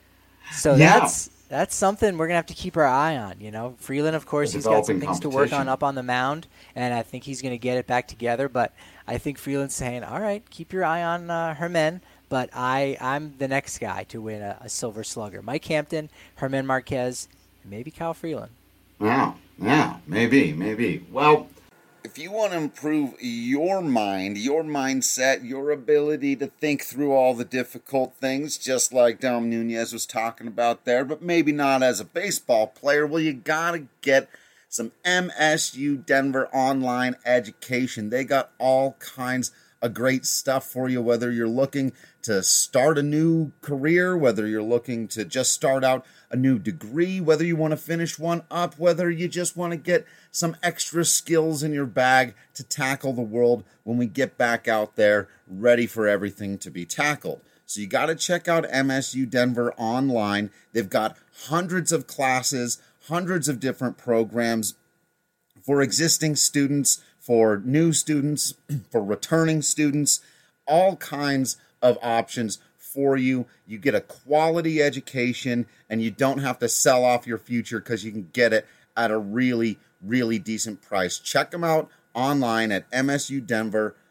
So yeah. that's that's something we're gonna have to keep our eye on. You know, Freeland, of course, he's got some things to work on up on the mound, and I think he's gonna get it back together. But I think Freeland's saying, "All right, keep your eye on uh, Herman." But I, I'm the next guy to win a, a Silver Slugger. Mike Hampton, Herman Marquez, and maybe Kyle Freeland. Yeah, yeah, maybe, maybe. Well, if you want to improve your mind, your mindset, your ability to think through all the difficult things, just like Dom Nunez was talking about there, but maybe not as a baseball player, well, you got to get some M S U Denver online education. They got all kinds of great stuff for you, whether you're looking to start a new career, whether you're looking to just start out a new degree, whether you want to finish one up, whether you just want to get some extra skills in your bag to tackle the world when we get back out there ready for everything to be tackled. So you got to check out M S U Denver online. They've got hundreds of classes, hundreds of different programs for existing students, for new students, for returning students, all kinds of options for you. You get a quality education, and you don't have to sell off your future because you can get it at a really, really decent price. Check them out online at M S U Denver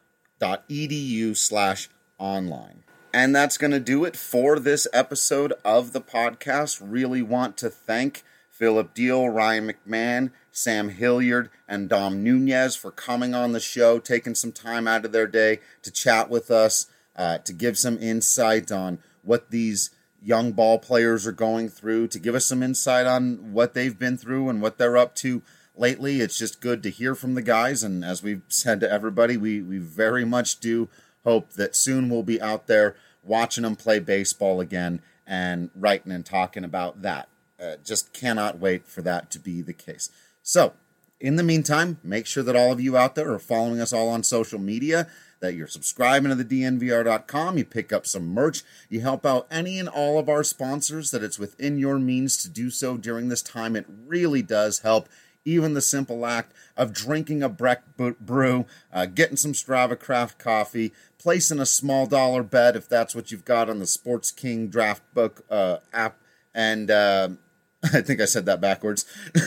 edu slash online. And that's going to do it for this episode of the podcast. Really want to thank Philip Deal, Ryan McMahon, Sam Hilliard, and Dom Nunez for coming on the show, taking some time out of their day to chat with us, uh, to give some insight on what these young ball players are going through, to give us some insight on what they've been through and what they're up to lately. It's just good to hear from the guys, and as we've said to everybody, we, we very much do hope that soon we'll be out there watching them play baseball again and writing and talking about that. Uh, just cannot wait for that to be the case. So, in the meantime, make sure that all of you out there are following us all on social media, that you're subscribing to the D N V R dot com, you pick up some merch, you help out any and all of our sponsors, that it's within your means to do so during this time. It really does help. Even the simple act of drinking a Breck brew, uh, getting some Strava Craft coffee, placing a small dollar bet if that's what you've got on the Sports King Draft Book uh, app, and uh, I think I said that backwards.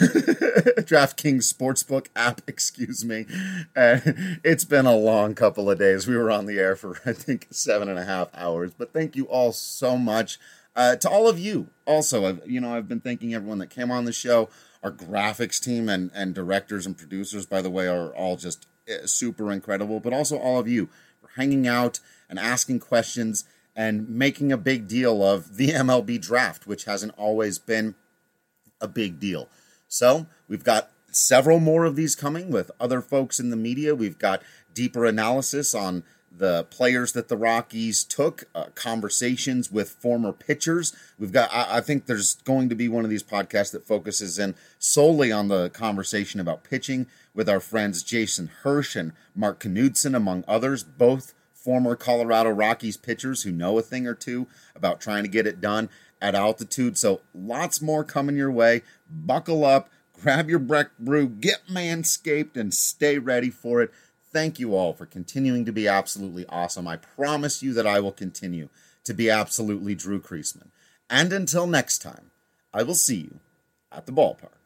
DraftKings Sportsbook app, excuse me. Uh, it's been a long couple of days. We were on the air for, I think, seven and a half hours. But thank you all so much. Uh, to all of you, also, I've, you know, I've been thanking everyone that came on the show. Our graphics team and, and directors and producers, by the way, are all just super incredible. But also all of you for hanging out and asking questions and making a big deal of the M L B draft, which hasn't always been a big deal. So we've got several more of these coming with other folks in the media. We've got deeper analysis on the players that the Rockies took, uh, conversations with former pitchers. We've got, I, I think there's going to be one of these podcasts that focuses in solely on the conversation about pitching with our friends Jason Hirsch and Mark Knudsen, among others, both former Colorado Rockies pitchers who know a thing or two about trying to get it done at altitude. So lots more coming your way. Buckle up, grab your Breck brew, get manscaped, and stay ready for it. Thank you all for continuing to be absolutely awesome. I promise you that I will continue to be absolutely Drew Creasman. And until next time, I will see you at the ballpark.